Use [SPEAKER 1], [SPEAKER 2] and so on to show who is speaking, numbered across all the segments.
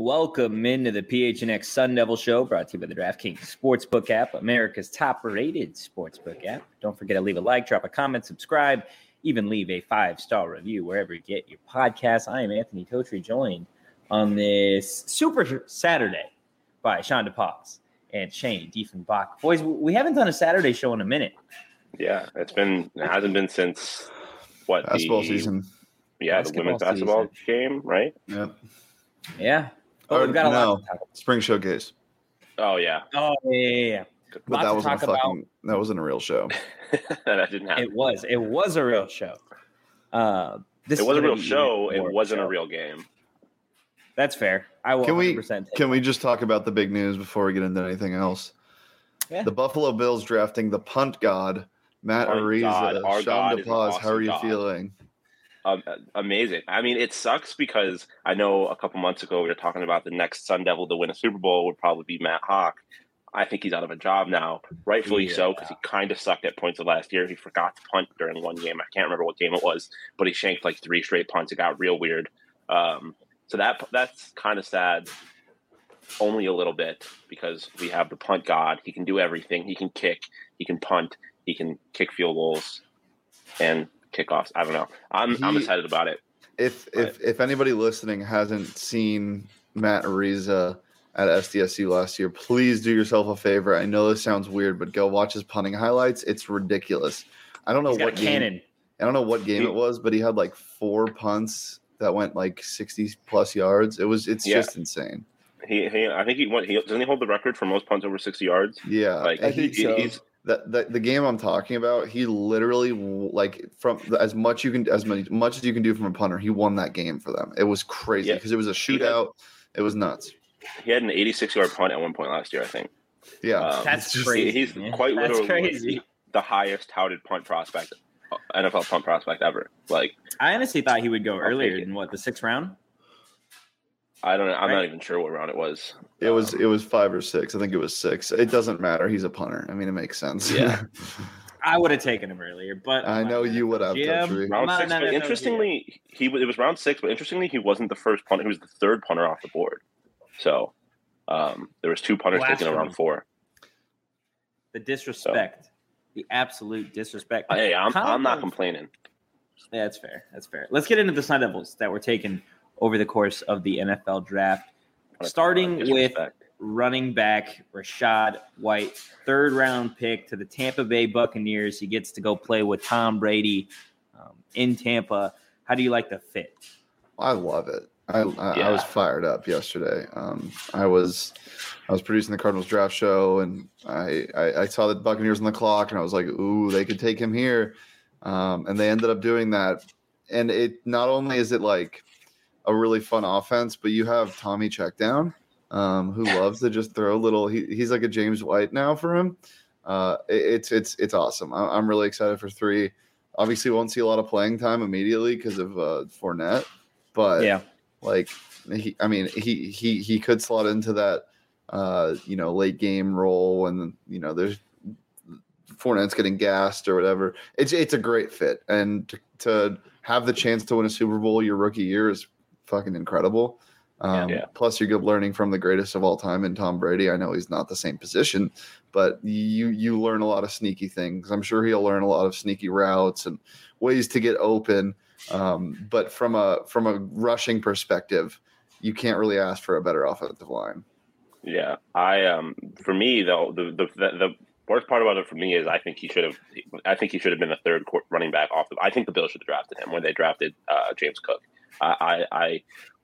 [SPEAKER 1] Welcome into the PHNX Sun Devil Show, brought to you by the DraftKings Sportsbook app, America's top-rated sportsbook app. Don't forget to leave a like, drop a comment, subscribe, even leave a 5-star review wherever you get your podcasts. I am Anthony Totri, joined on this Super Saturday by Sean DePaz and Shane Diefenbach. Boys, we haven't done a Saturday show in a minute.
[SPEAKER 2] Yeah, it hasn't been since
[SPEAKER 3] basketball season.
[SPEAKER 2] Yeah, the women's basketball game, right?
[SPEAKER 3] Yep.
[SPEAKER 1] Yeah. Oh, we've got a lot to talk about.
[SPEAKER 3] Spring Showcase.
[SPEAKER 2] Oh yeah.
[SPEAKER 1] Oh yeah.
[SPEAKER 3] But that wasn't a real show.
[SPEAKER 2] That didn't happen.
[SPEAKER 1] It was a real show.
[SPEAKER 2] It was a real show. It wasn't a real game.
[SPEAKER 1] That's fair. I will 100%
[SPEAKER 3] Can we just talk about the big news before we get into anything else?
[SPEAKER 1] Yeah.
[SPEAKER 3] The Buffalo Bills drafting the punt god, Matt Ariza. Sean DePaz, how are you feeling?
[SPEAKER 2] Amazing. I mean, it sucks because I know a couple months ago we were talking about the next Sun Devil to win a Super Bowl would probably be Matt Hawk. I think he's out of a job now, rightfully so, because he kind of sucked at points of last year. He forgot to punt during one game. I can't remember what game it was, but he shanked like 3 straight punts. It got real weird. So that's kind of sad, only a little bit, because we have the punt god. He can do everything. He can kick. He can punt. He can kick field goals and kickoffs. I don't know. I'm excited about it.
[SPEAKER 3] If anybody listening hasn't seen Matt Ariza at SDSU last year, please do yourself a favor. I know this sounds weird, but go watch his punting highlights. It's ridiculous. I don't know what game it was, but he had like 4 punts that went like 60 plus yards. It's just insane.
[SPEAKER 2] I think doesn't he hold the record for most punts over 60 yards?
[SPEAKER 3] Yeah,
[SPEAKER 1] I think so.
[SPEAKER 3] The game I'm talking about, he literally, like, from as much as you can do from a punter, he won that game for them. It was crazy because it was a shootout. It was nuts.
[SPEAKER 2] He had an 86-yard punt at one point last year, I think.
[SPEAKER 3] Yeah,
[SPEAKER 1] that's crazy.
[SPEAKER 2] He's quite literally the highest touted punt prospect, NFL punt prospect ever. Like,
[SPEAKER 1] I honestly thought he would go earlier than the 6th round.
[SPEAKER 2] I don't know. I'm not even sure what round it was.
[SPEAKER 3] It was 5 or 6. I think it was 6. It doesn't matter. He's a punter. I mean, it makes sense.
[SPEAKER 2] Yeah.
[SPEAKER 1] I would have taken him earlier, but
[SPEAKER 3] I know you would have.
[SPEAKER 2] Round 6. But interestingly, it was round 6. But interestingly, he wasn't the first punter. He was the 3rd punter off the board. So there was 2 punters taken in round 4.
[SPEAKER 1] The disrespect, the absolute disrespect.
[SPEAKER 2] Hey, I'm not complaining.
[SPEAKER 1] Yeah, that's fair. That's fair. Let's get into the Sun Devils that were taken over the course of the NFL draft, starting with running back Rachaad White, 3rd-round pick to the Tampa Bay Buccaneers. He gets to go play with Tom Brady in Tampa. How do you like the fit?
[SPEAKER 3] I love it. I was fired up yesterday. I was producing the Cardinals draft show, and I saw the Buccaneers on the clock, and I was like, ooh, they could take him here. And they ended up doing that. And it not only is it like a really fun offense, but you have Tommy Checkdown, who loves to just throw little. He's like a James White now for him. It's awesome. I'm really excited for 3. Obviously, won't see a lot of playing time immediately because of Fournette, but like he could slot into that late game role, and there's Fournette's getting gassed or whatever. It's a great fit, and to have the chance to win a Super Bowl your rookie year is fucking incredible. Plus, you're learning from the greatest of all time in Tom Brady. I know he's not the same position, but you learn a lot of sneaky things. I'm sure he'll learn a lot of sneaky routes and ways to get open. But from a rushing perspective, you can't really ask for a better offensive line.
[SPEAKER 2] Yeah, for me though, the worst part about it for me is I think he should have been the 3rd running back off. I think the Bills should have drafted him when they drafted James Cook. I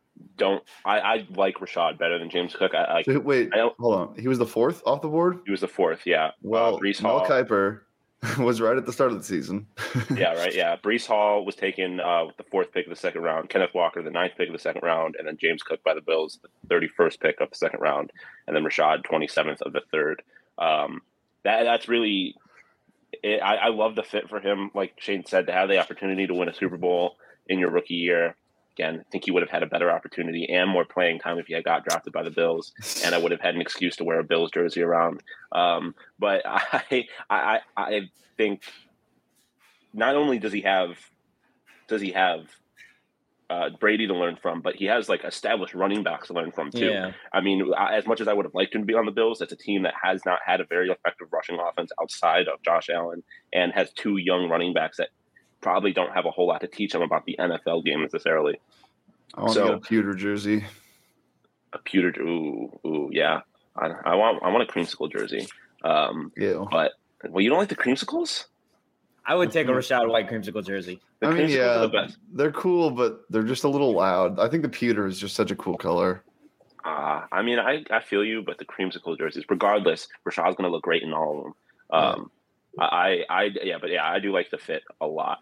[SPEAKER 2] like Rachaad better than James Cook.
[SPEAKER 3] Hold on. He was the 4th off the board?
[SPEAKER 2] He was the 4th, yeah.
[SPEAKER 3] Well,
[SPEAKER 2] Breece Hall.
[SPEAKER 3] Mel Kiper was right at the start of the season.
[SPEAKER 2] Yeah, right, yeah. Breece Hall was taken with the 4th pick of the 2nd round. Kenneth Walker, the 9th pick of the 2nd round. And then James Cook by the Bills, the 31st pick of the 2nd round. And then Rachaad, 27th of the 3rd. That's really – I love the fit for him, like Shane said, to have the opportunity to win a Super Bowl in your rookie year. Again, I think he would have had a better opportunity and more playing time if he had got drafted by the Bills, and I would have had an excuse to wear a Bills jersey around. But I think not only does he have Brady to learn from, but he has like established running backs to learn from too.
[SPEAKER 1] Yeah.
[SPEAKER 2] I mean, as much as I would have liked him to be on the Bills, it's a team that has not had a very effective rushing offense outside of Josh Allen and has 2 young running backs that probably don't have a whole lot to teach them about the NFL game necessarily.
[SPEAKER 3] I want to get a pewter jersey.
[SPEAKER 2] A pewter, ooh, yeah. I want a creamsicle jersey.
[SPEAKER 3] Yeah.
[SPEAKER 2] But you don't like the creamsicles?
[SPEAKER 1] I would take a Rachaad White creamsicle jersey.
[SPEAKER 2] The creamsicles are the best.
[SPEAKER 3] They're cool, but they're just a little loud. I think the pewter is just such a cool color.
[SPEAKER 2] I mean, I feel you, but the creamsicle jerseys, regardless, Rashaad's going to look great in all of them. I do like the fit a lot.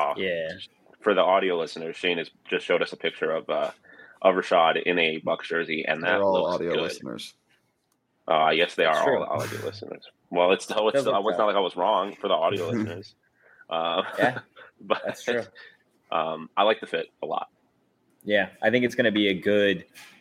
[SPEAKER 2] For the audio listeners, Shane has just showed us a picture of Rashaad in a Bucs jersey, and that
[SPEAKER 3] They're all
[SPEAKER 2] looks
[SPEAKER 3] audio
[SPEAKER 2] good.
[SPEAKER 3] listeners.
[SPEAKER 2] Yes, they
[SPEAKER 1] That's
[SPEAKER 2] are
[SPEAKER 1] true.
[SPEAKER 2] all audio listeners. Well, it's not like I was wrong for the audio listeners.
[SPEAKER 1] Yeah,
[SPEAKER 2] but
[SPEAKER 1] that's true.
[SPEAKER 2] I like the fit a lot.
[SPEAKER 1] Yeah, I think it's going to be a good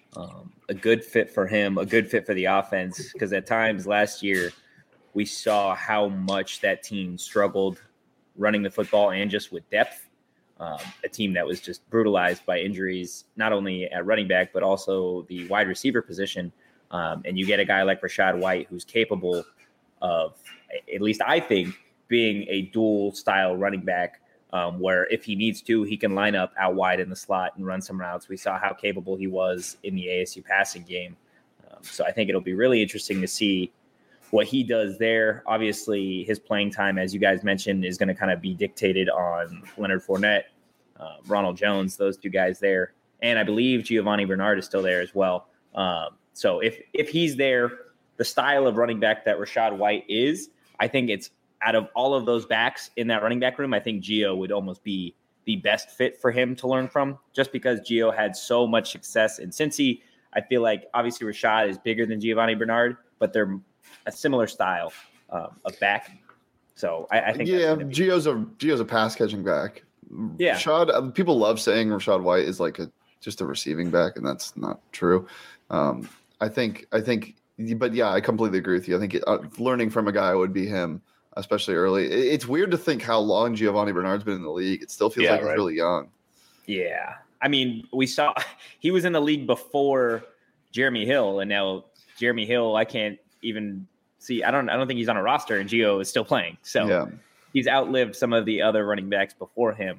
[SPEAKER 1] fit for him, a good fit for the offense, because at times last year we saw how much that team struggled running the football and just with depth. A team that was just brutalized by injuries, not only at running back, but also the wide receiver position. And you get a guy like Rachaad White, who's capable of, at least I think, being a dual style running back, where if he needs to, he can line up out wide in the slot and run some routes. We saw how capable he was in the ASU passing game. So I think it'll be really interesting to see what he does there. Obviously, his playing time, as you guys mentioned, is going to kind of be dictated on Leonard Fournette, Ronald Jones, those 2 guys there. And I believe Giovanni Bernard is still there as well. So if he's there, the style of running back that Rachaad White is, I think it's out of all of those backs in that running back room, I think Gio would almost be the best fit for him to learn from, just because Gio had so much success in Cincy. I feel like obviously Rachaad is bigger than Giovanni Bernard, but they're a similar style of back. So I think
[SPEAKER 3] Gio's a pass catching back.
[SPEAKER 1] Yeah,
[SPEAKER 3] Rachaad, people love saying Rachaad White is like just a receiving back, and that's not true. I think, but yeah, I completely agree with you. I think learning from a guy would be him, especially early. It's weird to think how long Giovanni Bernard's been in the league. It still feels like he's really young.
[SPEAKER 1] Yeah. I mean, we saw he was in the league before Jeremy Hill, and now Jeremy Hill, I can't even see. I don't think he's on a roster, and Gio is still playing. So he's outlived some of the other running backs before him.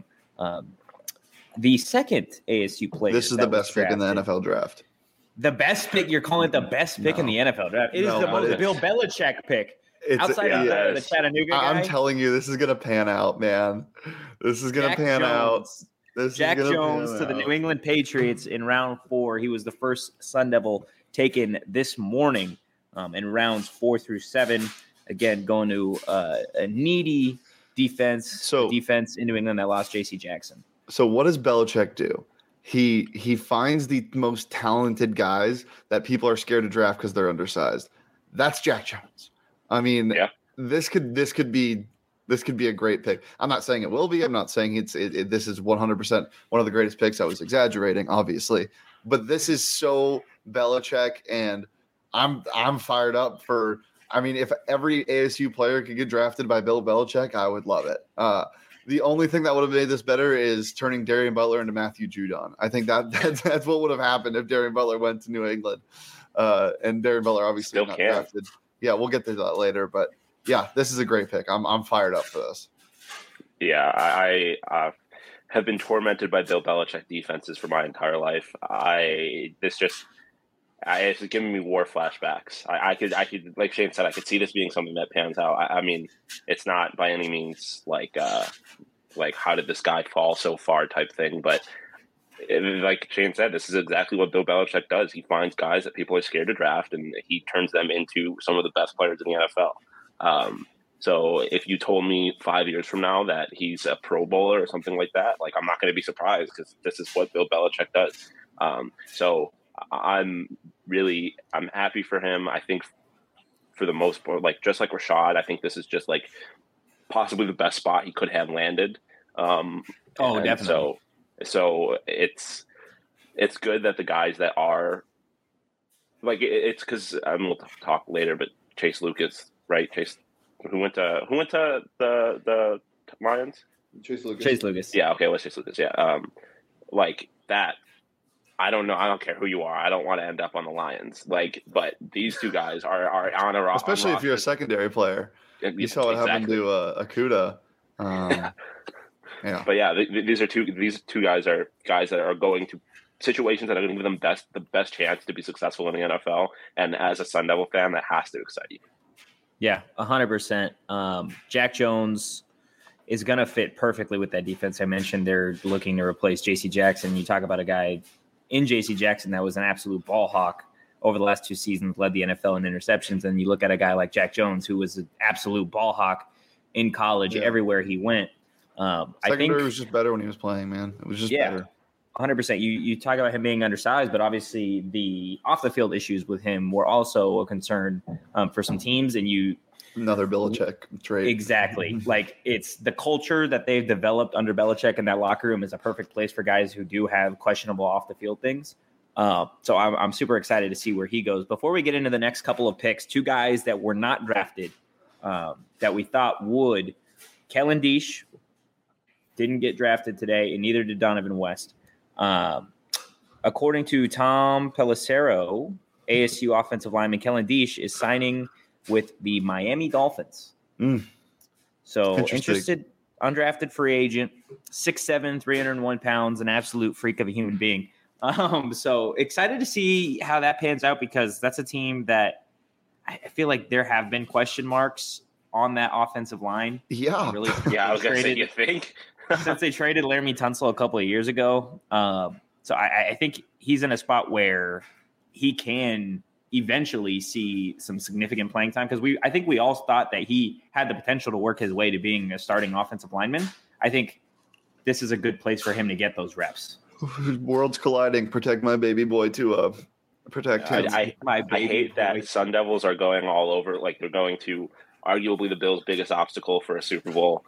[SPEAKER 1] The second ASU player.
[SPEAKER 3] This is the best pick in the NFL draft.
[SPEAKER 1] The best pick? You're calling it the best pick in the NFL draft? It is the most Bill Belichick pick. Outside of the Chattanooga guy.
[SPEAKER 3] I'm telling you, this is going to pan out, man. This is going to pan out.
[SPEAKER 1] Jack Jones to the New England Patriots in round 4. He was the first Sun Devil taken this morning in rounds 4 through 7. Again, going to a needy defense in New England that lost J.C. Jackson.
[SPEAKER 3] So what does Belichick do? He finds the most talented guys that people are scared to draft because they're undersized. That's Jack Jones. I mean, this could be a great pick. I'm not saying it will be. I'm not saying this is 100% one of the greatest picks. I was exaggerating, obviously, but this is so Belichick, and I'm fired up for. I mean, if every ASU player could get drafted by Bill Belichick, I would love it. The only thing that would have made this better is turning Darian Butler into Matthew Judon. I think that's what would have happened if Darian Butler went to New England. And Darian Butler obviously not drafted. Yeah, we'll get to that later. But yeah, this is a great pick. I'm fired up for this.
[SPEAKER 2] Yeah, I have been tormented by Bill Belichick defenses for my entire life. It's giving me war flashbacks. I could, like Shane said, I could see this being something that pans out. I mean, it's not by any means like how did this guy fall so far type thing, but like Shane said, this is exactly what Bill Belichick does. He finds guys that people are scared to draft, and he turns them into some of the best players in the NFL. So if you told me 5 years from now that he's a Pro Bowler or something like that, like I'm not going to be surprised because this is what Bill Belichick does. So I'm happy for him. I think for the most part, like just like Rachaad, I think this is just like possibly the best spot he could have landed.
[SPEAKER 1] Definitely.
[SPEAKER 2] So it's good that the guys that are like it's because we'll talk later, but Chase Lucas, right? Chase, who went to the Lions?
[SPEAKER 3] Chase Lucas.
[SPEAKER 1] Chase Lucas.
[SPEAKER 2] Yeah. Okay. Let's Chase Lucas. Yeah. Like that, I don't know. I don't care who you are. I don't want to end up on the Lions. But these two guys are on a roster.
[SPEAKER 3] Especially if you're a secondary player. You saw what happened to Okudah. Yeah.
[SPEAKER 2] But yeah, these two guys that are going to situations that are going to give them the best chance to be successful in the NFL. And as a Sun Devil fan, that has to excite you.
[SPEAKER 1] Yeah, 100%. Jack Jones is going to fit perfectly with that defense. I mentioned they're looking to replace J.C. Jackson. You talk about a guy in J.C. Jackson that was an absolute ball hawk over the last 2 seasons, led the NFL in interceptions. And you look at a guy like Jack Jones, who was an absolute ball hawk in college everywhere he went.
[SPEAKER 3] I think it was just better when he was playing, man. It was just better.
[SPEAKER 1] 100%. You talk about him being undersized, but obviously the off the field issues with him were also a concern for some teams. And
[SPEAKER 3] another Belichick trade.
[SPEAKER 1] Exactly. Like, it's the culture that they've developed under Belichick, and that locker room is a perfect place for guys who do have questionable off the field things. So I'm super excited to see where he goes. Before we get into the next couple of picks, 2 guys that were not drafted that we thought would. Kellen Diesch didn't get drafted today, and neither did Donovan West. According to Tom Pelissero, ASU offensive lineman Kellen Diesch is signing with the Miami Dolphins. So interested, undrafted free agent, 6'7", 301 pounds, an absolute freak of a human being. So excited to see how that pans out, because that's a team that I feel like there have been question marks on that offensive line.
[SPEAKER 3] Yeah.
[SPEAKER 2] Really, I was going to say, you think?
[SPEAKER 1] Since they traded Laramie Tunsil a couple of years ago. So I think he's in a spot where he can eventually see some significant playing time, because I think we all thought that he had the potential to work his way to being a starting offensive lineman. I think this is a good place for him to get those reps.
[SPEAKER 3] Worlds colliding. Protect my baby boy to protect him.
[SPEAKER 2] I hate that Sun Devils are going all over. Like, they're going to arguably the Bills' biggest obstacle for a Super Bowl.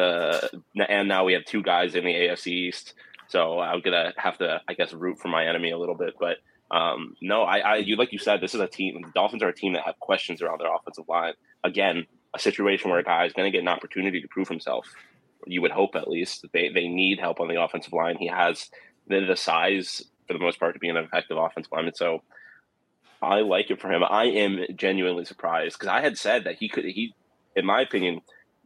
[SPEAKER 2] And now we have 2 guys in the AFC East. So I'm gonna have to, I guess, root for my enemy a little bit. But no, like you said, this is a team. The Dolphins are a team that have questions around their offensive line. Again, a situation where a guy is going to get an opportunity to prove himself. You would hope, at least. They need help on the offensive line. He has the size, for the most part, to be an effective offensive lineman. So I like it for him. I am genuinely surprised, because I had said that he, in my opinion,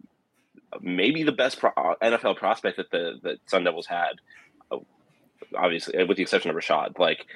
[SPEAKER 2] maybe the best NFL prospect that the Sun Devils had, obviously, with the exception of Rashad.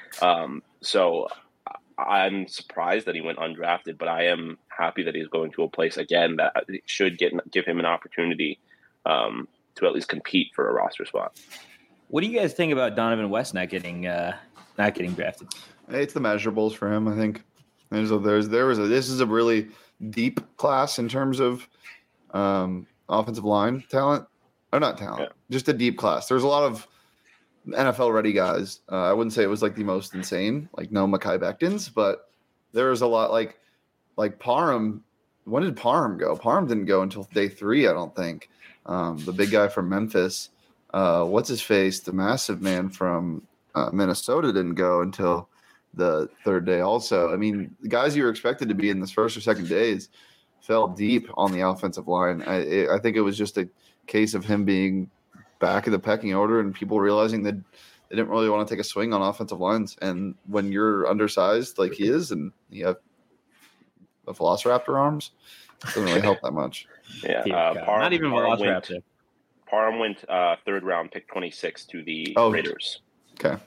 [SPEAKER 2] So I'm surprised that he went undrafted, but I am happy that he's going to a place, again, that should give him an opportunity to at least compete for a roster spot.
[SPEAKER 1] What do you guys think about Donovan West not getting drafted?
[SPEAKER 3] It's the measurables for him, I think. This is a really deep class in terms of offensive line talent. Or not talent, just a deep class. There's a lot of NFL ready guys. I wouldn't say it was like the most insane, like no Mekhi Bectons, but there was a lot like Parham. When did Parham go? Parham didn't go until day 3, I don't think. The big guy from Memphis, what's his face? The massive man from Minnesota didn't go until the 3rd day also. I mean, the guys you were expected to be in this first or second days fell deep on the offensive line. I think it was just a case of him being back in the pecking order and people realizing that they didn't really want to take a swing on offensive lines. And when you're undersized like he is and you have the Velociraptor arms, it doesn't really help that much.
[SPEAKER 2] Yeah,
[SPEAKER 1] not even Velociraptor.
[SPEAKER 2] Parham went 3rd round, pick 26 to the Raiders.
[SPEAKER 3] Okay.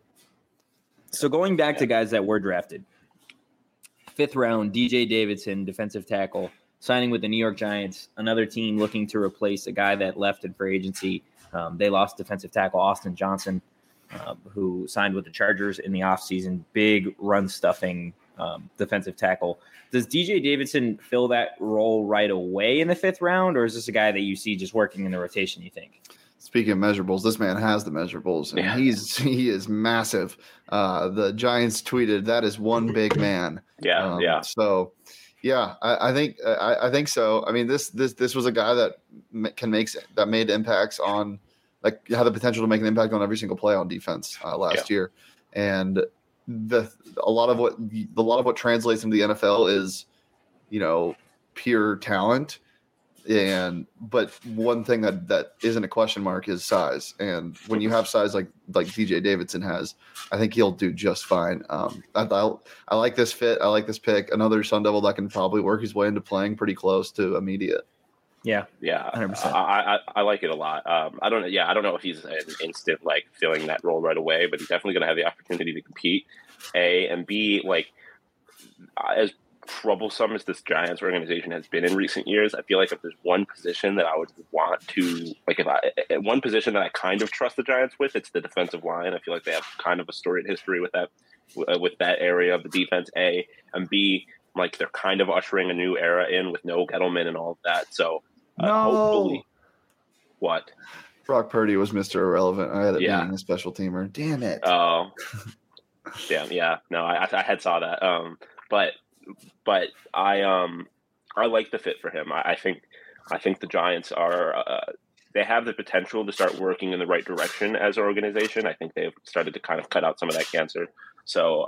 [SPEAKER 1] So going back to guys that were drafted, 5th round, DJ Davidson, defensive tackle, signing with the New York Giants, another team looking to replace a guy that left in free agency. They lost defensive tackle Austin Johnson, who signed with the Chargers in the offseason. Big run-stuffing defensive tackle. Does DJ Davidson fill that role right away in the 5th round, or is this a guy that you see just working in the rotation, you think?
[SPEAKER 3] Speaking of measurables, this man has the measurables, and he is massive. The Giants tweeted, "That is one big man."
[SPEAKER 2] Yeah.
[SPEAKER 3] So, yeah, I think so. I mean, this was a guy that made impacts on, like, had the potential to make an impact on every single play on defense last year, and a lot of what translates into the NFL is, pure talent. But one thing that isn't a question mark is size. And when you have size like DJ Davidson has, I think he'll do just fine. I like this fit. I like this pick. Another Sun Devil that can probably work his way into playing pretty close to immediate.
[SPEAKER 2] Yeah, 100%. I like it a lot. I don't know if he's an instant like filling that role right away, but he's definitely going to have the opportunity to compete. A and B, like as troublesome as this Giants organization has been in recent years, I feel like if there's one position that I would want to one position that I kind of trust the Giants with, it's the defensive line. I feel like they have kind of a storied history with that area of the defense. A and B, like they're kind of ushering a new era in with no Gettleman and all of that. So hopefully, what?
[SPEAKER 3] Brock Purdy was Mr. Irrelevant. I had it being a special teamer. Damn it.
[SPEAKER 2] Oh, damn. Yeah. No, I had saw that. But I like the fit for him. I think the Giants they have the potential to start working in the right direction as an organization. I think they've started to kind of cut out some of that cancer. So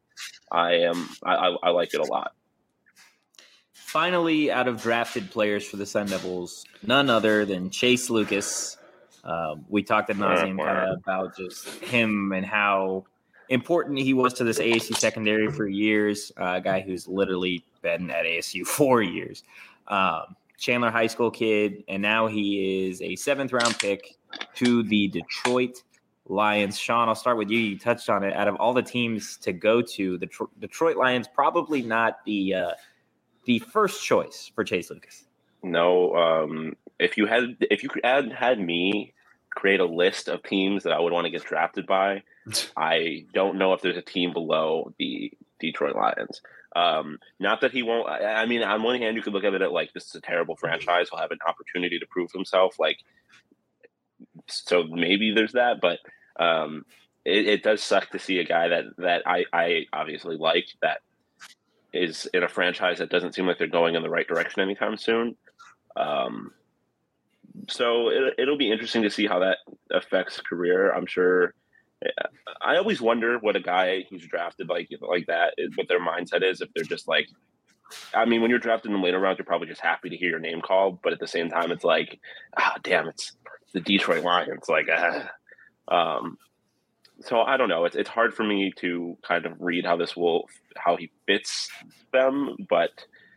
[SPEAKER 2] I like it a lot.
[SPEAKER 1] Finally, out of drafted players for the Sun Devils, none other than Chase Lucas. We talked ad nauseum kind of about just him and how important he was to this ASU secondary for years. A guy who's literally been at ASU 4 years. Chandler High School kid, and now he is a 7th-round pick to the Detroit Lions. Sean, I'll start with you. You touched on it. Out of all the teams to go to, the Detroit Lions probably not the first choice for Chase Lucas.
[SPEAKER 2] No, if you could had me create a list of teams that I would want to get drafted by, I don't know if there's a team below the Detroit Lions. Not that he won't. I mean, on one hand, you could look at it like this is a terrible franchise. He'll have an opportunity to prove himself. Like, so maybe there's that, but it does suck to see a guy that I obviously like that is in a franchise that doesn't seem like they're going in the right direction anytime soon. So it'll be interesting to see how that affects his career. I'm sure. I always wonder what a guy who's drafted like that is, what their mindset is. If they're just like, I mean, when you're drafted in the later rounds, you're probably just happy to hear your name called. But at the same time, it's like, damn, it's the Detroit Lions. Like, so I don't know. It's hard for me to kind of read how he fits them. But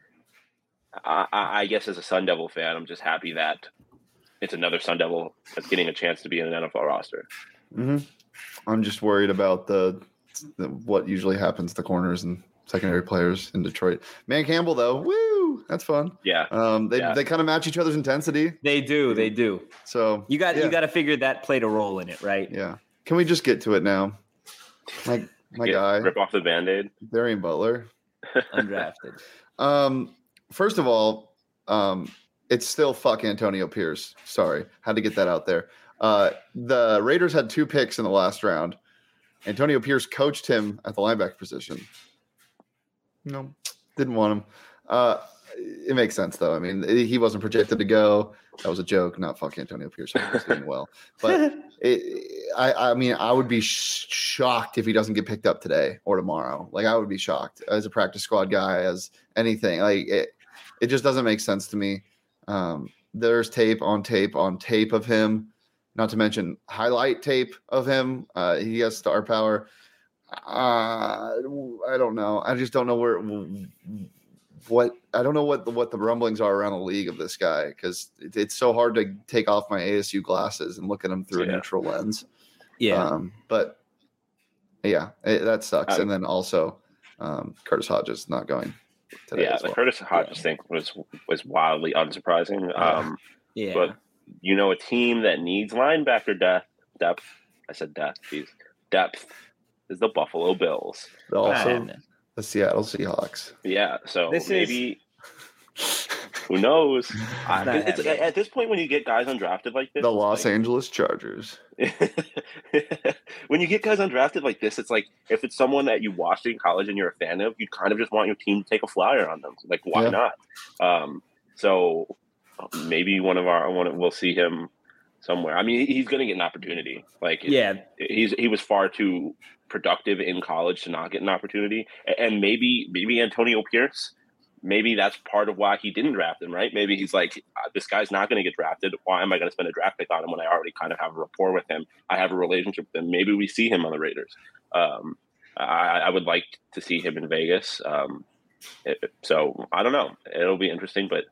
[SPEAKER 2] I guess as a Sun Devil fan, I'm just happy that it's another Sun Devil that's getting a chance to be in an NFL roster.
[SPEAKER 3] Mm-hmm. I'm just worried about the what usually happens to corners and secondary players in Detroit. Man Campbell, though, woo, that's fun.
[SPEAKER 2] Yeah.
[SPEAKER 3] They kind of match each other's intensity.
[SPEAKER 1] They do. So you got to figure that played a role in it, right?
[SPEAKER 3] Yeah. Can we just get to it now? My guy.
[SPEAKER 2] Rip off the Band-Aid.
[SPEAKER 3] Darian Butler.
[SPEAKER 1] Undrafted.
[SPEAKER 3] First of all, it's still fuck Antonio Pierce. Sorry. Had to get that out there. The Raiders had 2 picks in the last round. Antonio Pierce coached him at the linebacker position. No, didn't want him. It makes sense, though. I mean, he wasn't projected to go. That was a joke. Not fuck Antonio Pierce. He's doing well. But I mean, I would be shocked if he doesn't get picked up today or tomorrow. Like, I would be shocked as a practice squad guy, as anything. Like, it just doesn't make sense to me. There's tape on tape on tape of him. Not to mention highlight tape of him. He has star power. I don't know. I just don't know what the rumblings are around the league of this guy, because it's so hard to take off my ASU glasses and look at him through a neutral lens.
[SPEAKER 1] Yeah.
[SPEAKER 3] But yeah, that sucks. And then also Curtis Hodges not going today.
[SPEAKER 2] Yeah, the Curtis Hodges thing was wildly unsurprising.
[SPEAKER 1] Yeah.
[SPEAKER 2] But a team that needs linebacker depth. I said depth. Please. Depth is the Buffalo Bills.
[SPEAKER 3] Also, the Seattle Seahawks.
[SPEAKER 2] Yeah. So who knows? At this point, when you get guys undrafted like this,
[SPEAKER 3] the Los Angeles Chargers.
[SPEAKER 2] When you get guys undrafted like this, it's like if it's someone that you watched in college and you're a fan of, you kind of just want your team to take a flyer on them. Like, why not? So maybe we'll see him somewhere. I mean, he's going to get an opportunity. Like, he was far too productive in college to not get an opportunity. And maybe Antonio Pierce maybe that's part of why he didn't draft him, right? Maybe he's like, this guy's not going to get drafted. Why am I going to spend a draft pick on him when I already kind of have a rapport with him? I have a relationship with him. Maybe we see him on the Raiders. I would like to see him in Vegas. So I don't know. It'll be interesting, but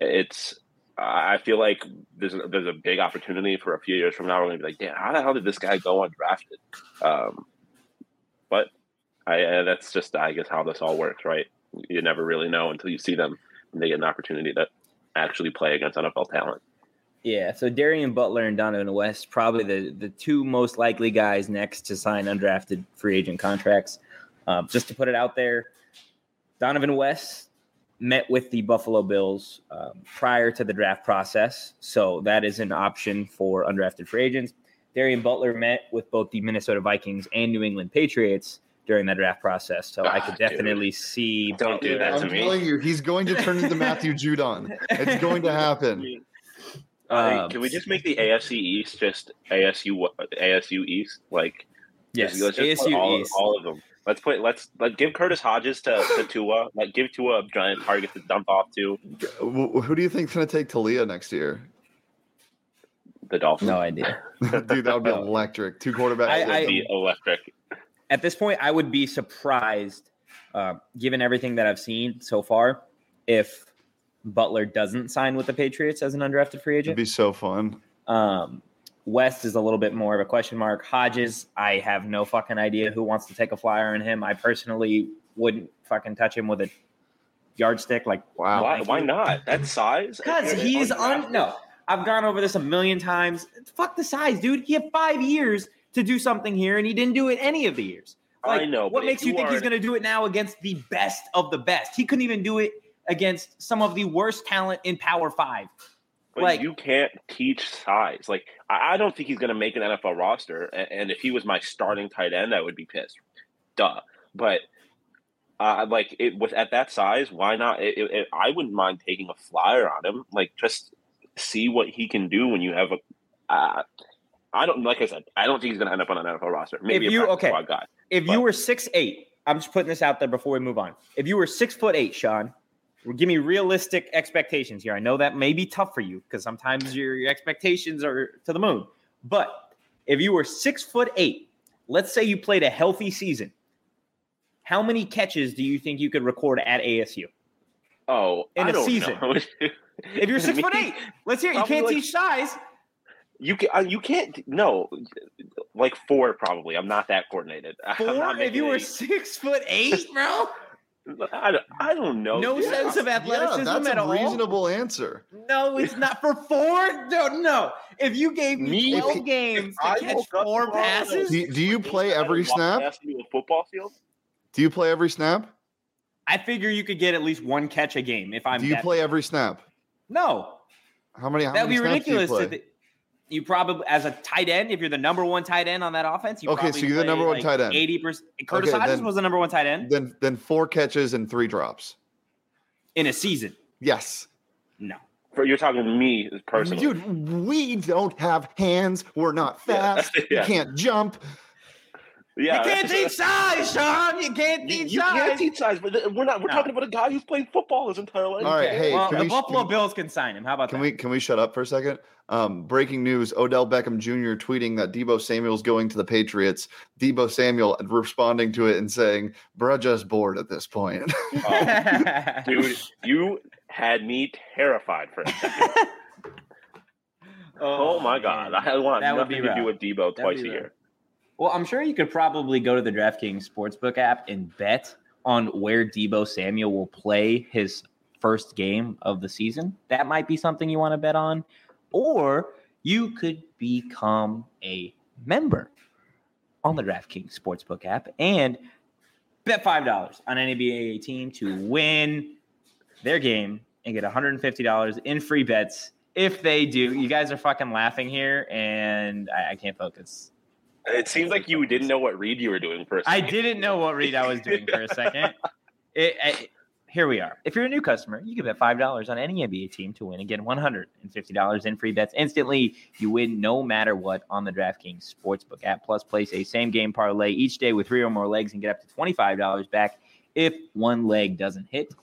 [SPEAKER 2] I feel like there's a big opportunity for a few years from now. We're going to be like, damn, how the hell did this guy go undrafted? But that's just, I guess, how this all works, right? You never really know until you see them and they get an opportunity to actually play against NFL talent.
[SPEAKER 1] Yeah, so Darian Butler and Donovan West, probably the two most likely guys next to sign undrafted free agent contracts. Just to put it out there, Donovan West met with the Buffalo Bills prior to the draft process, so that is an option for undrafted free agents. Darian Butler met with both the Minnesota Vikings and New England Patriots during the draft process, so I could definitely see.
[SPEAKER 2] Don't do that to me.
[SPEAKER 3] I'm telling you, he's going to turn into Matthew Judon. It's going to happen.
[SPEAKER 2] Can we just make the AFC East just ASU East? Like,
[SPEAKER 1] yes,
[SPEAKER 2] let's just
[SPEAKER 1] ASU East.
[SPEAKER 2] All of them. Let's give Curtis Hodges to Tua. Like, give Tua a giant target to dump off to.
[SPEAKER 3] Who do you think's going to take Talia next year?
[SPEAKER 2] The Dolphins.
[SPEAKER 1] No idea.
[SPEAKER 3] Dude, that would be electric. Two quarterbacks.
[SPEAKER 2] That would be electric.
[SPEAKER 1] At this point, I would be surprised, given everything that I've seen so far, if Butler doesn't sign with the Patriots as an undrafted free agent.
[SPEAKER 3] It'd be so fun.
[SPEAKER 1] West is a little bit more of a question mark. Hodges, I have no fucking idea who wants to take a flyer on him. I personally wouldn't fucking touch him with a yardstick. Like,
[SPEAKER 2] wow, why not? That size?
[SPEAKER 1] Because he's no. I've gone over this a million times. Fuck the size, dude. He had 5 years to do something here, and he didn't do it any of the years. Like,
[SPEAKER 2] I know.
[SPEAKER 1] What makes you think he's going to do it now against the best of the best? He couldn't even do it against some of the worst talent in Power 5.
[SPEAKER 2] But like, you can't teach size. Like, I don't think he's going to make an NFL roster. And if he was my starting tight end, I would be pissed. Duh. But at that size, why not? I wouldn't mind taking a flyer on him. Like, just see what he can do when you have a. I don't think he's going to end up on an NFL roster. Maybe a practice squad guy.
[SPEAKER 1] If you were 6'8", I'm just putting this out there before we move on. If you were 6'8", Sean, give me realistic expectations here. I know that may be tough for you because sometimes your expectations are to the moon. But if you were 6'8", let's say you played a healthy season, how many catches do you think you could record at ASU?
[SPEAKER 2] Oh,
[SPEAKER 1] in a season. If you're 6'8", let's hear it. You can't teach size.
[SPEAKER 2] You can't. No, like 4 probably. I'm not that coordinated.
[SPEAKER 1] 4? If you were 6'8", bro.
[SPEAKER 2] I don't know.
[SPEAKER 1] No sense of athleticism
[SPEAKER 3] that's
[SPEAKER 1] at all.
[SPEAKER 3] That's a reasonable answer.
[SPEAKER 1] No, it's not for 4. No. If you gave me 12 games to catch 4 passes,
[SPEAKER 3] do you play every snap?
[SPEAKER 2] Football field.
[SPEAKER 3] Do you play every snap?
[SPEAKER 1] I figure you could get at least 1 catch a game if I'm.
[SPEAKER 3] Do you play every snap?
[SPEAKER 1] No.
[SPEAKER 3] How many?
[SPEAKER 1] That'd be ridiculous.
[SPEAKER 3] Do
[SPEAKER 1] you probably, as a tight end, if you're the number 1 tight end on that offense, so
[SPEAKER 3] you're the number 1 tight end.
[SPEAKER 1] 80%. Curtis Hodges was the number 1 tight end.
[SPEAKER 3] Then 4 catches and 3 drops
[SPEAKER 1] in a season.
[SPEAKER 3] Yes.
[SPEAKER 2] No. You're talking to me personally.
[SPEAKER 3] Dude, we don't have hands. We're not fast. Yeah. We can't jump.
[SPEAKER 2] Yeah,
[SPEAKER 1] you can't teach size, Sean. You can't teach size. You
[SPEAKER 2] can't teach size, but we're talking about a guy who's played football his entire life.
[SPEAKER 3] All right, hey,
[SPEAKER 1] the Buffalo Bills can sign him. How about that?
[SPEAKER 3] Can we shut up for a second? Breaking news: Odell Beckham Jr. tweeting that Deebo Samuel's going to the Patriots. Deebo Samuel responding to it and saying, "Bruh, just bored at this point."
[SPEAKER 2] Dude, you had me terrified for a second. Oh my God! I want nothing to do with Deebo twice a year.
[SPEAKER 1] Well, I'm sure you could probably go to the DraftKings Sportsbook app and bet on where Deebo Samuel will play his first game of the season. That might be something you want to bet on. Or you could become a member on the DraftKings Sportsbook app and bet $5 on any NBA team to win their game and get $150 in free bets if they do. You guys are fucking laughing here, and I can't focus.
[SPEAKER 2] It seems like you didn't know what read you were doing for a second.
[SPEAKER 1] I didn't know what read I was doing for a second. Here we are. If you're a new customer, you can bet $5 on any NBA team to win and get $150 in free bets instantly. You win no matter what on the DraftKings Sportsbook app. Plus, place a same-game parlay each day with 3 or more legs and get up to $25 back if one leg doesn't hit.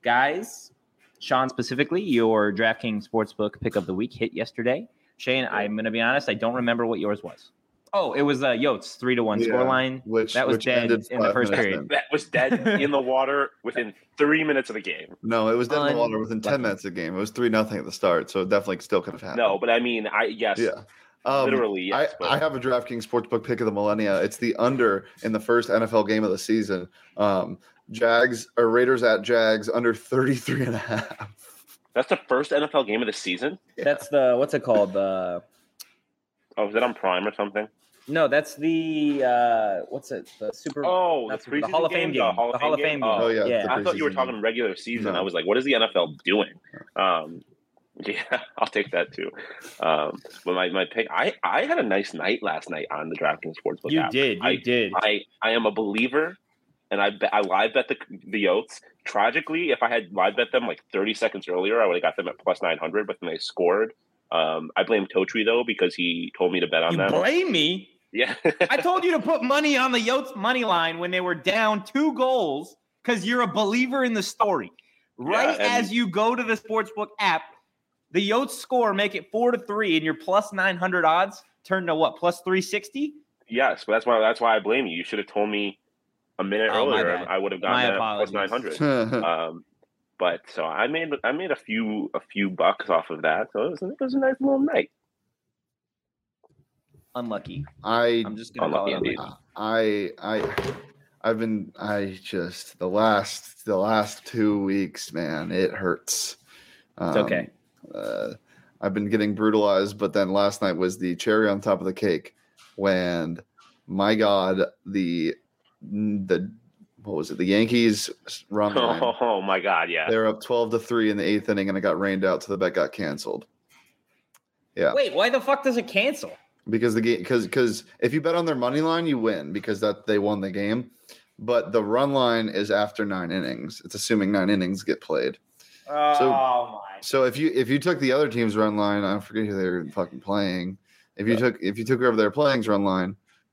[SPEAKER 1] Guys, Sean specifically, your DraftKings Sportsbook pick of the week hit yesterday. Shane, I'm going to be honest, I don't remember what yours was. Oh, it was Yotes 3-1 scoreline. That was dead in the first period.
[SPEAKER 2] That was dead in the water within 3 minutes of the game.
[SPEAKER 3] No, it was dead in the water within 10 minutes of the game. It was 3-0 at the start, so it definitely still could have happened.
[SPEAKER 2] No, but I mean, literally, yes.
[SPEAKER 3] I have a DraftKings Sportsbook pick of the millennia. It's the under in the first NFL game of the season. Raiders at Jags under 33.5.
[SPEAKER 2] That's the first NFL game of the season?
[SPEAKER 1] Yeah. That's the, what's it called?
[SPEAKER 2] Oh, is it on Prime or something?
[SPEAKER 1] No, that's the what's it? The Super.
[SPEAKER 2] Oh, the
[SPEAKER 1] Hall of Fame game. The Hall of Fame game.
[SPEAKER 3] Oh yeah.
[SPEAKER 2] I thought you were talking regular season. No. I was like, what is the NFL doing? Yeah, I'll take that too. But my pick, I had a nice night last night on the DraftKings Sportsbook app.
[SPEAKER 1] You did.
[SPEAKER 2] I am a believer, and I live bet the Yotes. Tragically, if I had live bet them like 30 seconds earlier, I would have got them at plus 900. But then they scored. I blame Totri though because he told me to bet on them.
[SPEAKER 1] You blame me?
[SPEAKER 2] Yeah.
[SPEAKER 1] I told you to put money on the Yotes money line when they were down 2 goals because you're a believer in the story. Right as you go to the Sportsbook app, the Yotes score, make it 4-3, and your plus 900 odds turn to what, plus 360?
[SPEAKER 2] Yes, but that's why I blame you. You should have told me a minute earlier, and I would have gotten that plus 900. But so I made a few bucks off of that. So it was a nice little night.
[SPEAKER 1] Unlucky.
[SPEAKER 3] I'm
[SPEAKER 1] just gonna call it
[SPEAKER 3] unlucky. The last 2 weeks, man, it hurts.
[SPEAKER 1] It's okay.
[SPEAKER 3] I've been getting brutalized, but then last night was the cherry on top of the cake when, my God, the what was it? The Yankees run line.
[SPEAKER 2] Oh my God, yeah.
[SPEAKER 3] They were up 12-3 in the 8th inning, and it got rained out, so the bet got canceled. Yeah.
[SPEAKER 1] Wait, why the fuck does it cancel?
[SPEAKER 3] Because the game, because if you bet on their money line, you win because they won the game. But the run line is after 9 innings. It's assuming 9 innings get played. So if you took the other team's run line, I forget who they were fucking playing. If you took whoever they're playing's run line,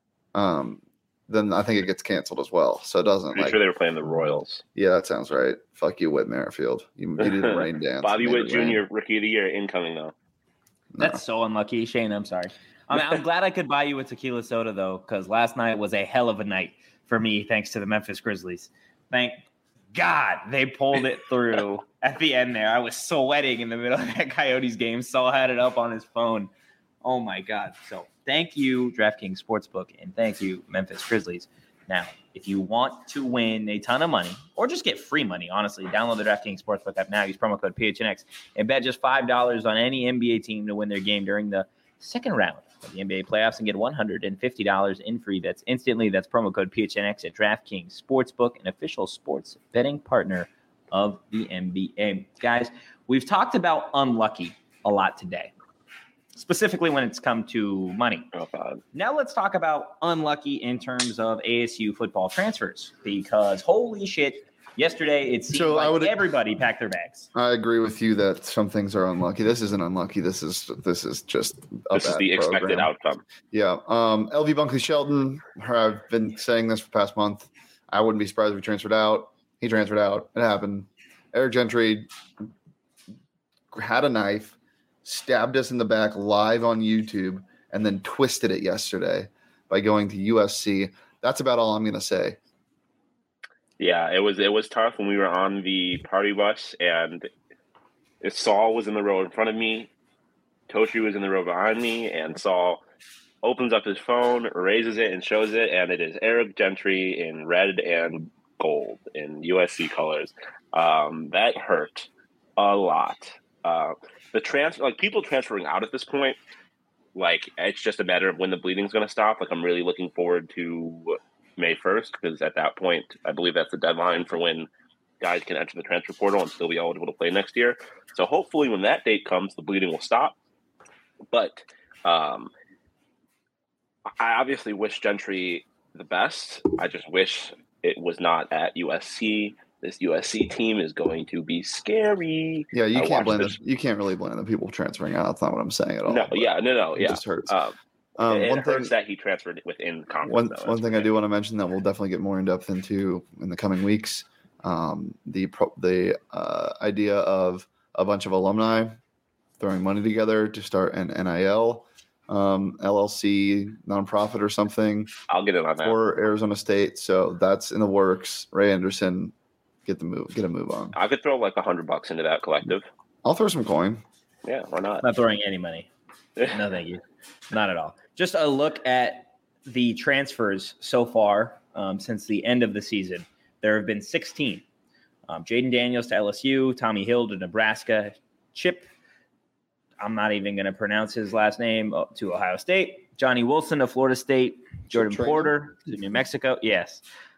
[SPEAKER 3] then I think it gets canceled as well. So it doesn't.
[SPEAKER 2] Pretty sure they were playing the Royals.
[SPEAKER 3] Yeah, that sounds right. Fuck you, Whit Merrifield. You did a rain dance.
[SPEAKER 2] Bobby Witt Jr. Rookie of the Year incoming though.
[SPEAKER 1] No. That's so unlucky, Shane. I'm sorry. I'm glad I could buy you a tequila soda though, because last night was a hell of a night for me, thanks to the Memphis Grizzlies. Thank God they pulled it through at the end there. I was sweating in the middle of that Coyotes game. Saul had it up on his phone. Oh my God. So thank you, DraftKings Sportsbook, and thank you, Memphis Grizzlies. Now, if you want to win a ton of money or just get free money, honestly, download the DraftKings Sportsbook app now. Use promo code PHNX and bet just $5 on any NBA team to win their game during the second round of the NBA playoffs and get $150 in free bets instantly. That's promo code PHNX at DraftKings Sportsbook, an official sports betting partner of the NBA. Guys, we've talked about unlucky a lot today, specifically when it's come to money. Now let's talk about unlucky in terms of ASU football transfers, because holy shit, yesterday it seemed everybody packed their bags.
[SPEAKER 3] I agree with you that some things are unlucky. This isn't unlucky. This is just
[SPEAKER 2] the expected outcome.
[SPEAKER 3] Yeah. LV Bunkley Shelton, I've been saying this for the past month. I wouldn't be surprised if he transferred out. He transferred out. It happened. Eric Gentry had a knife, stabbed us in the back live on YouTube, and then twisted it yesterday by going to USC. That's about all I'm going to say.
[SPEAKER 2] Yeah, it was tough when we were on the party bus, and Saul was in the row in front of me, Toshi was in the row behind me, and Saul opens up his phone, raises it, and shows it, and it is Eric Gentry in red and gold in USC colors. That hurt a lot. People transferring out at this point, it's just a matter of when the bleeding's going to stop. I'm really looking forward to May 1st, because at that point, I believe that's the deadline for when guys can enter the transfer portal and still be eligible to play next year. So hopefully when that date comes, the bleeding will stop. But I obviously wish Gentry the best. I just wish it was not at USC. This USC team is going to be scary.
[SPEAKER 3] Yeah, you can't really blame the people transferring out. That's not what I'm saying at all.
[SPEAKER 2] No. It
[SPEAKER 3] just hurts.
[SPEAKER 2] It hurts that he transferred within conference.
[SPEAKER 3] One thing I do want to mention that we'll definitely get more in depth into in the coming weeks. The idea of a bunch of alumni throwing money together to start an NIL LLC nonprofit or something.
[SPEAKER 2] I'll get it on that
[SPEAKER 3] for Arizona State. So that's in the works. Ray Anderson, get a move on.
[SPEAKER 2] I could throw like $100 into that collective.
[SPEAKER 3] I'll throw some coin.
[SPEAKER 2] Yeah, why not?
[SPEAKER 1] Not throwing any money. No, thank you. Not at all. Just a look at the transfers so far since the end of the season. There have been 16. Jaden Daniels to LSU, Tommy Hill to Nebraska, Chip, I'm not even going to pronounce his last name, to Ohio State, Johnny Wilson to Florida State, Jordan Porter to New Mexico. Yes.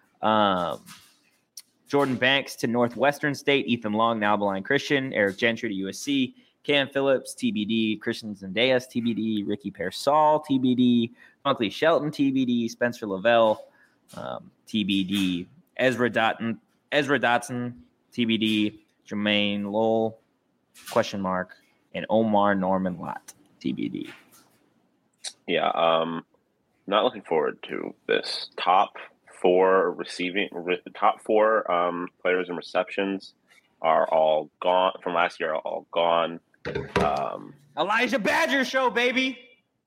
[SPEAKER 1] Jordan Banks to Northwestern State, Ethan Long, now Abilene Christian, Eric Gentry to USC, Cam Phillips, TBD, Christian Zendejas, TBD, Ricky Pearsall, TBD, Funkley Shelton, TBD, Spencer Lavelle, TBD, Ezra Dotson, TBD, Jermaine Lowell, ? And Omar Norman Lott, TBD.
[SPEAKER 2] Yeah, not looking forward to this. Top four players and receptions are all gone from last year. Are all gone.
[SPEAKER 1] Elijah Badger show, baby.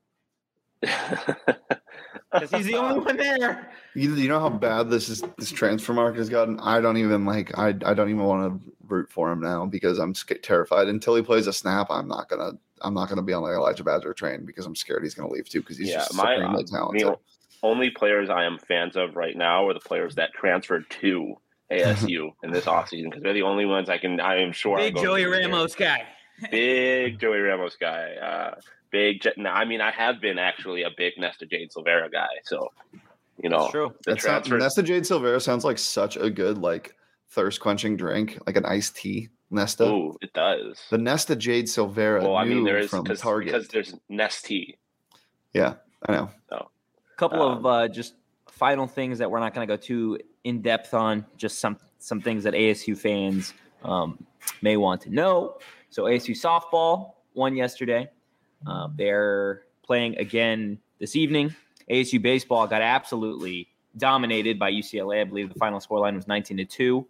[SPEAKER 1] Because he's the only one there.
[SPEAKER 3] You know how bad this transfer market has gotten. I don't even I don't even want to root for him now because I'm terrified. Until he plays a snap, I'm not gonna be on the Elijah Badger train because I'm scared he's gonna leave too because he's just supremely talented.
[SPEAKER 2] The only players I am fans of right now are the players that transferred to ASU in this offseason because they're the only ones I am sure.
[SPEAKER 1] Big Joey Ramos guy.
[SPEAKER 2] Big Joey Ramos guy. I have been actually a big Nesta Jade Silvera guy. So,
[SPEAKER 1] that's true.
[SPEAKER 3] Nesta Jade Silvera sounds like such a good thirst quenching drink, like an iced tea. Nesta.
[SPEAKER 2] Ooh, it does.
[SPEAKER 3] The Nesta Jade Silvera.
[SPEAKER 2] Well, there is
[SPEAKER 3] from Target
[SPEAKER 2] because there's Nestea.
[SPEAKER 3] Yeah, I know.
[SPEAKER 2] So,
[SPEAKER 1] couple of just final things that we're not going to go too in depth on. Just some things that ASU fans may want to know. So ASU softball won yesterday. They're playing again this evening. ASU baseball got absolutely dominated by UCLA. I believe the final scoreline was 19-2.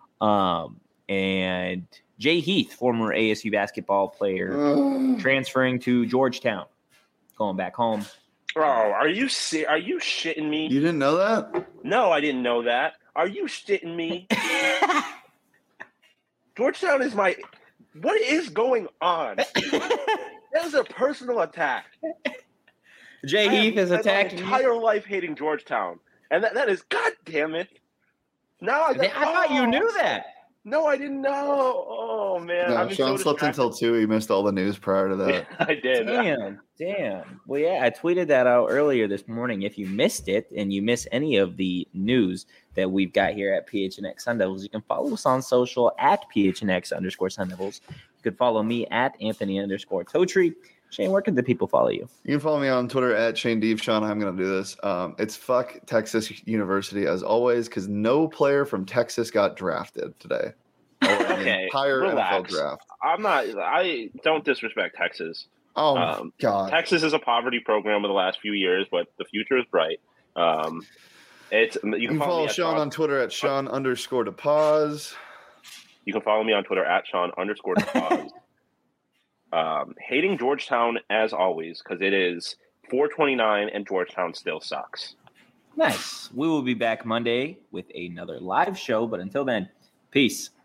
[SPEAKER 1] And Jay Heath, former ASU basketball player, transferring to Georgetown, going back home.
[SPEAKER 2] Oh, are you shitting me?
[SPEAKER 3] You didn't know that?
[SPEAKER 2] No, I didn't know that. Are you shitting me? Georgetown is my. What is going on? That is a personal attack.
[SPEAKER 1] Jay Heath is attacking
[SPEAKER 2] my entire life hating Georgetown, and that is, God damn it! Now I
[SPEAKER 1] thought you knew that.
[SPEAKER 2] No, I didn't know. Oh man,
[SPEAKER 3] no, Sean slept until 2. He missed all the news prior to that.
[SPEAKER 2] I did.
[SPEAKER 1] Damn. Well, yeah, I tweeted that out earlier this morning. If you missed it and you miss any of the news that we've got here at PHNX Sun Devils, you can follow us on social at PHNX_Sun Devils. You can follow me at Anthony_Totri. Shane, where can the people follow you?
[SPEAKER 3] You can follow me on Twitter at Shane Deeve. Sean, I'm going to do this. It's fuck Texas University as always because no player from Texas got drafted today.
[SPEAKER 2] Okay,
[SPEAKER 3] entire
[SPEAKER 2] relax.
[SPEAKER 3] NFL draft.
[SPEAKER 2] I don't disrespect Texas.
[SPEAKER 3] Oh, God.
[SPEAKER 2] Texas is a poverty program over the last few years, but the future is bright. You can
[SPEAKER 3] follow Sean on Twitter at Sean_DePause.
[SPEAKER 2] You can follow me on Twitter at Sean_DePause. Hating Georgetown as always because it is 4:29 and Georgetown still sucks.
[SPEAKER 1] Nice. We will be back Monday with another live show, but until then, peace.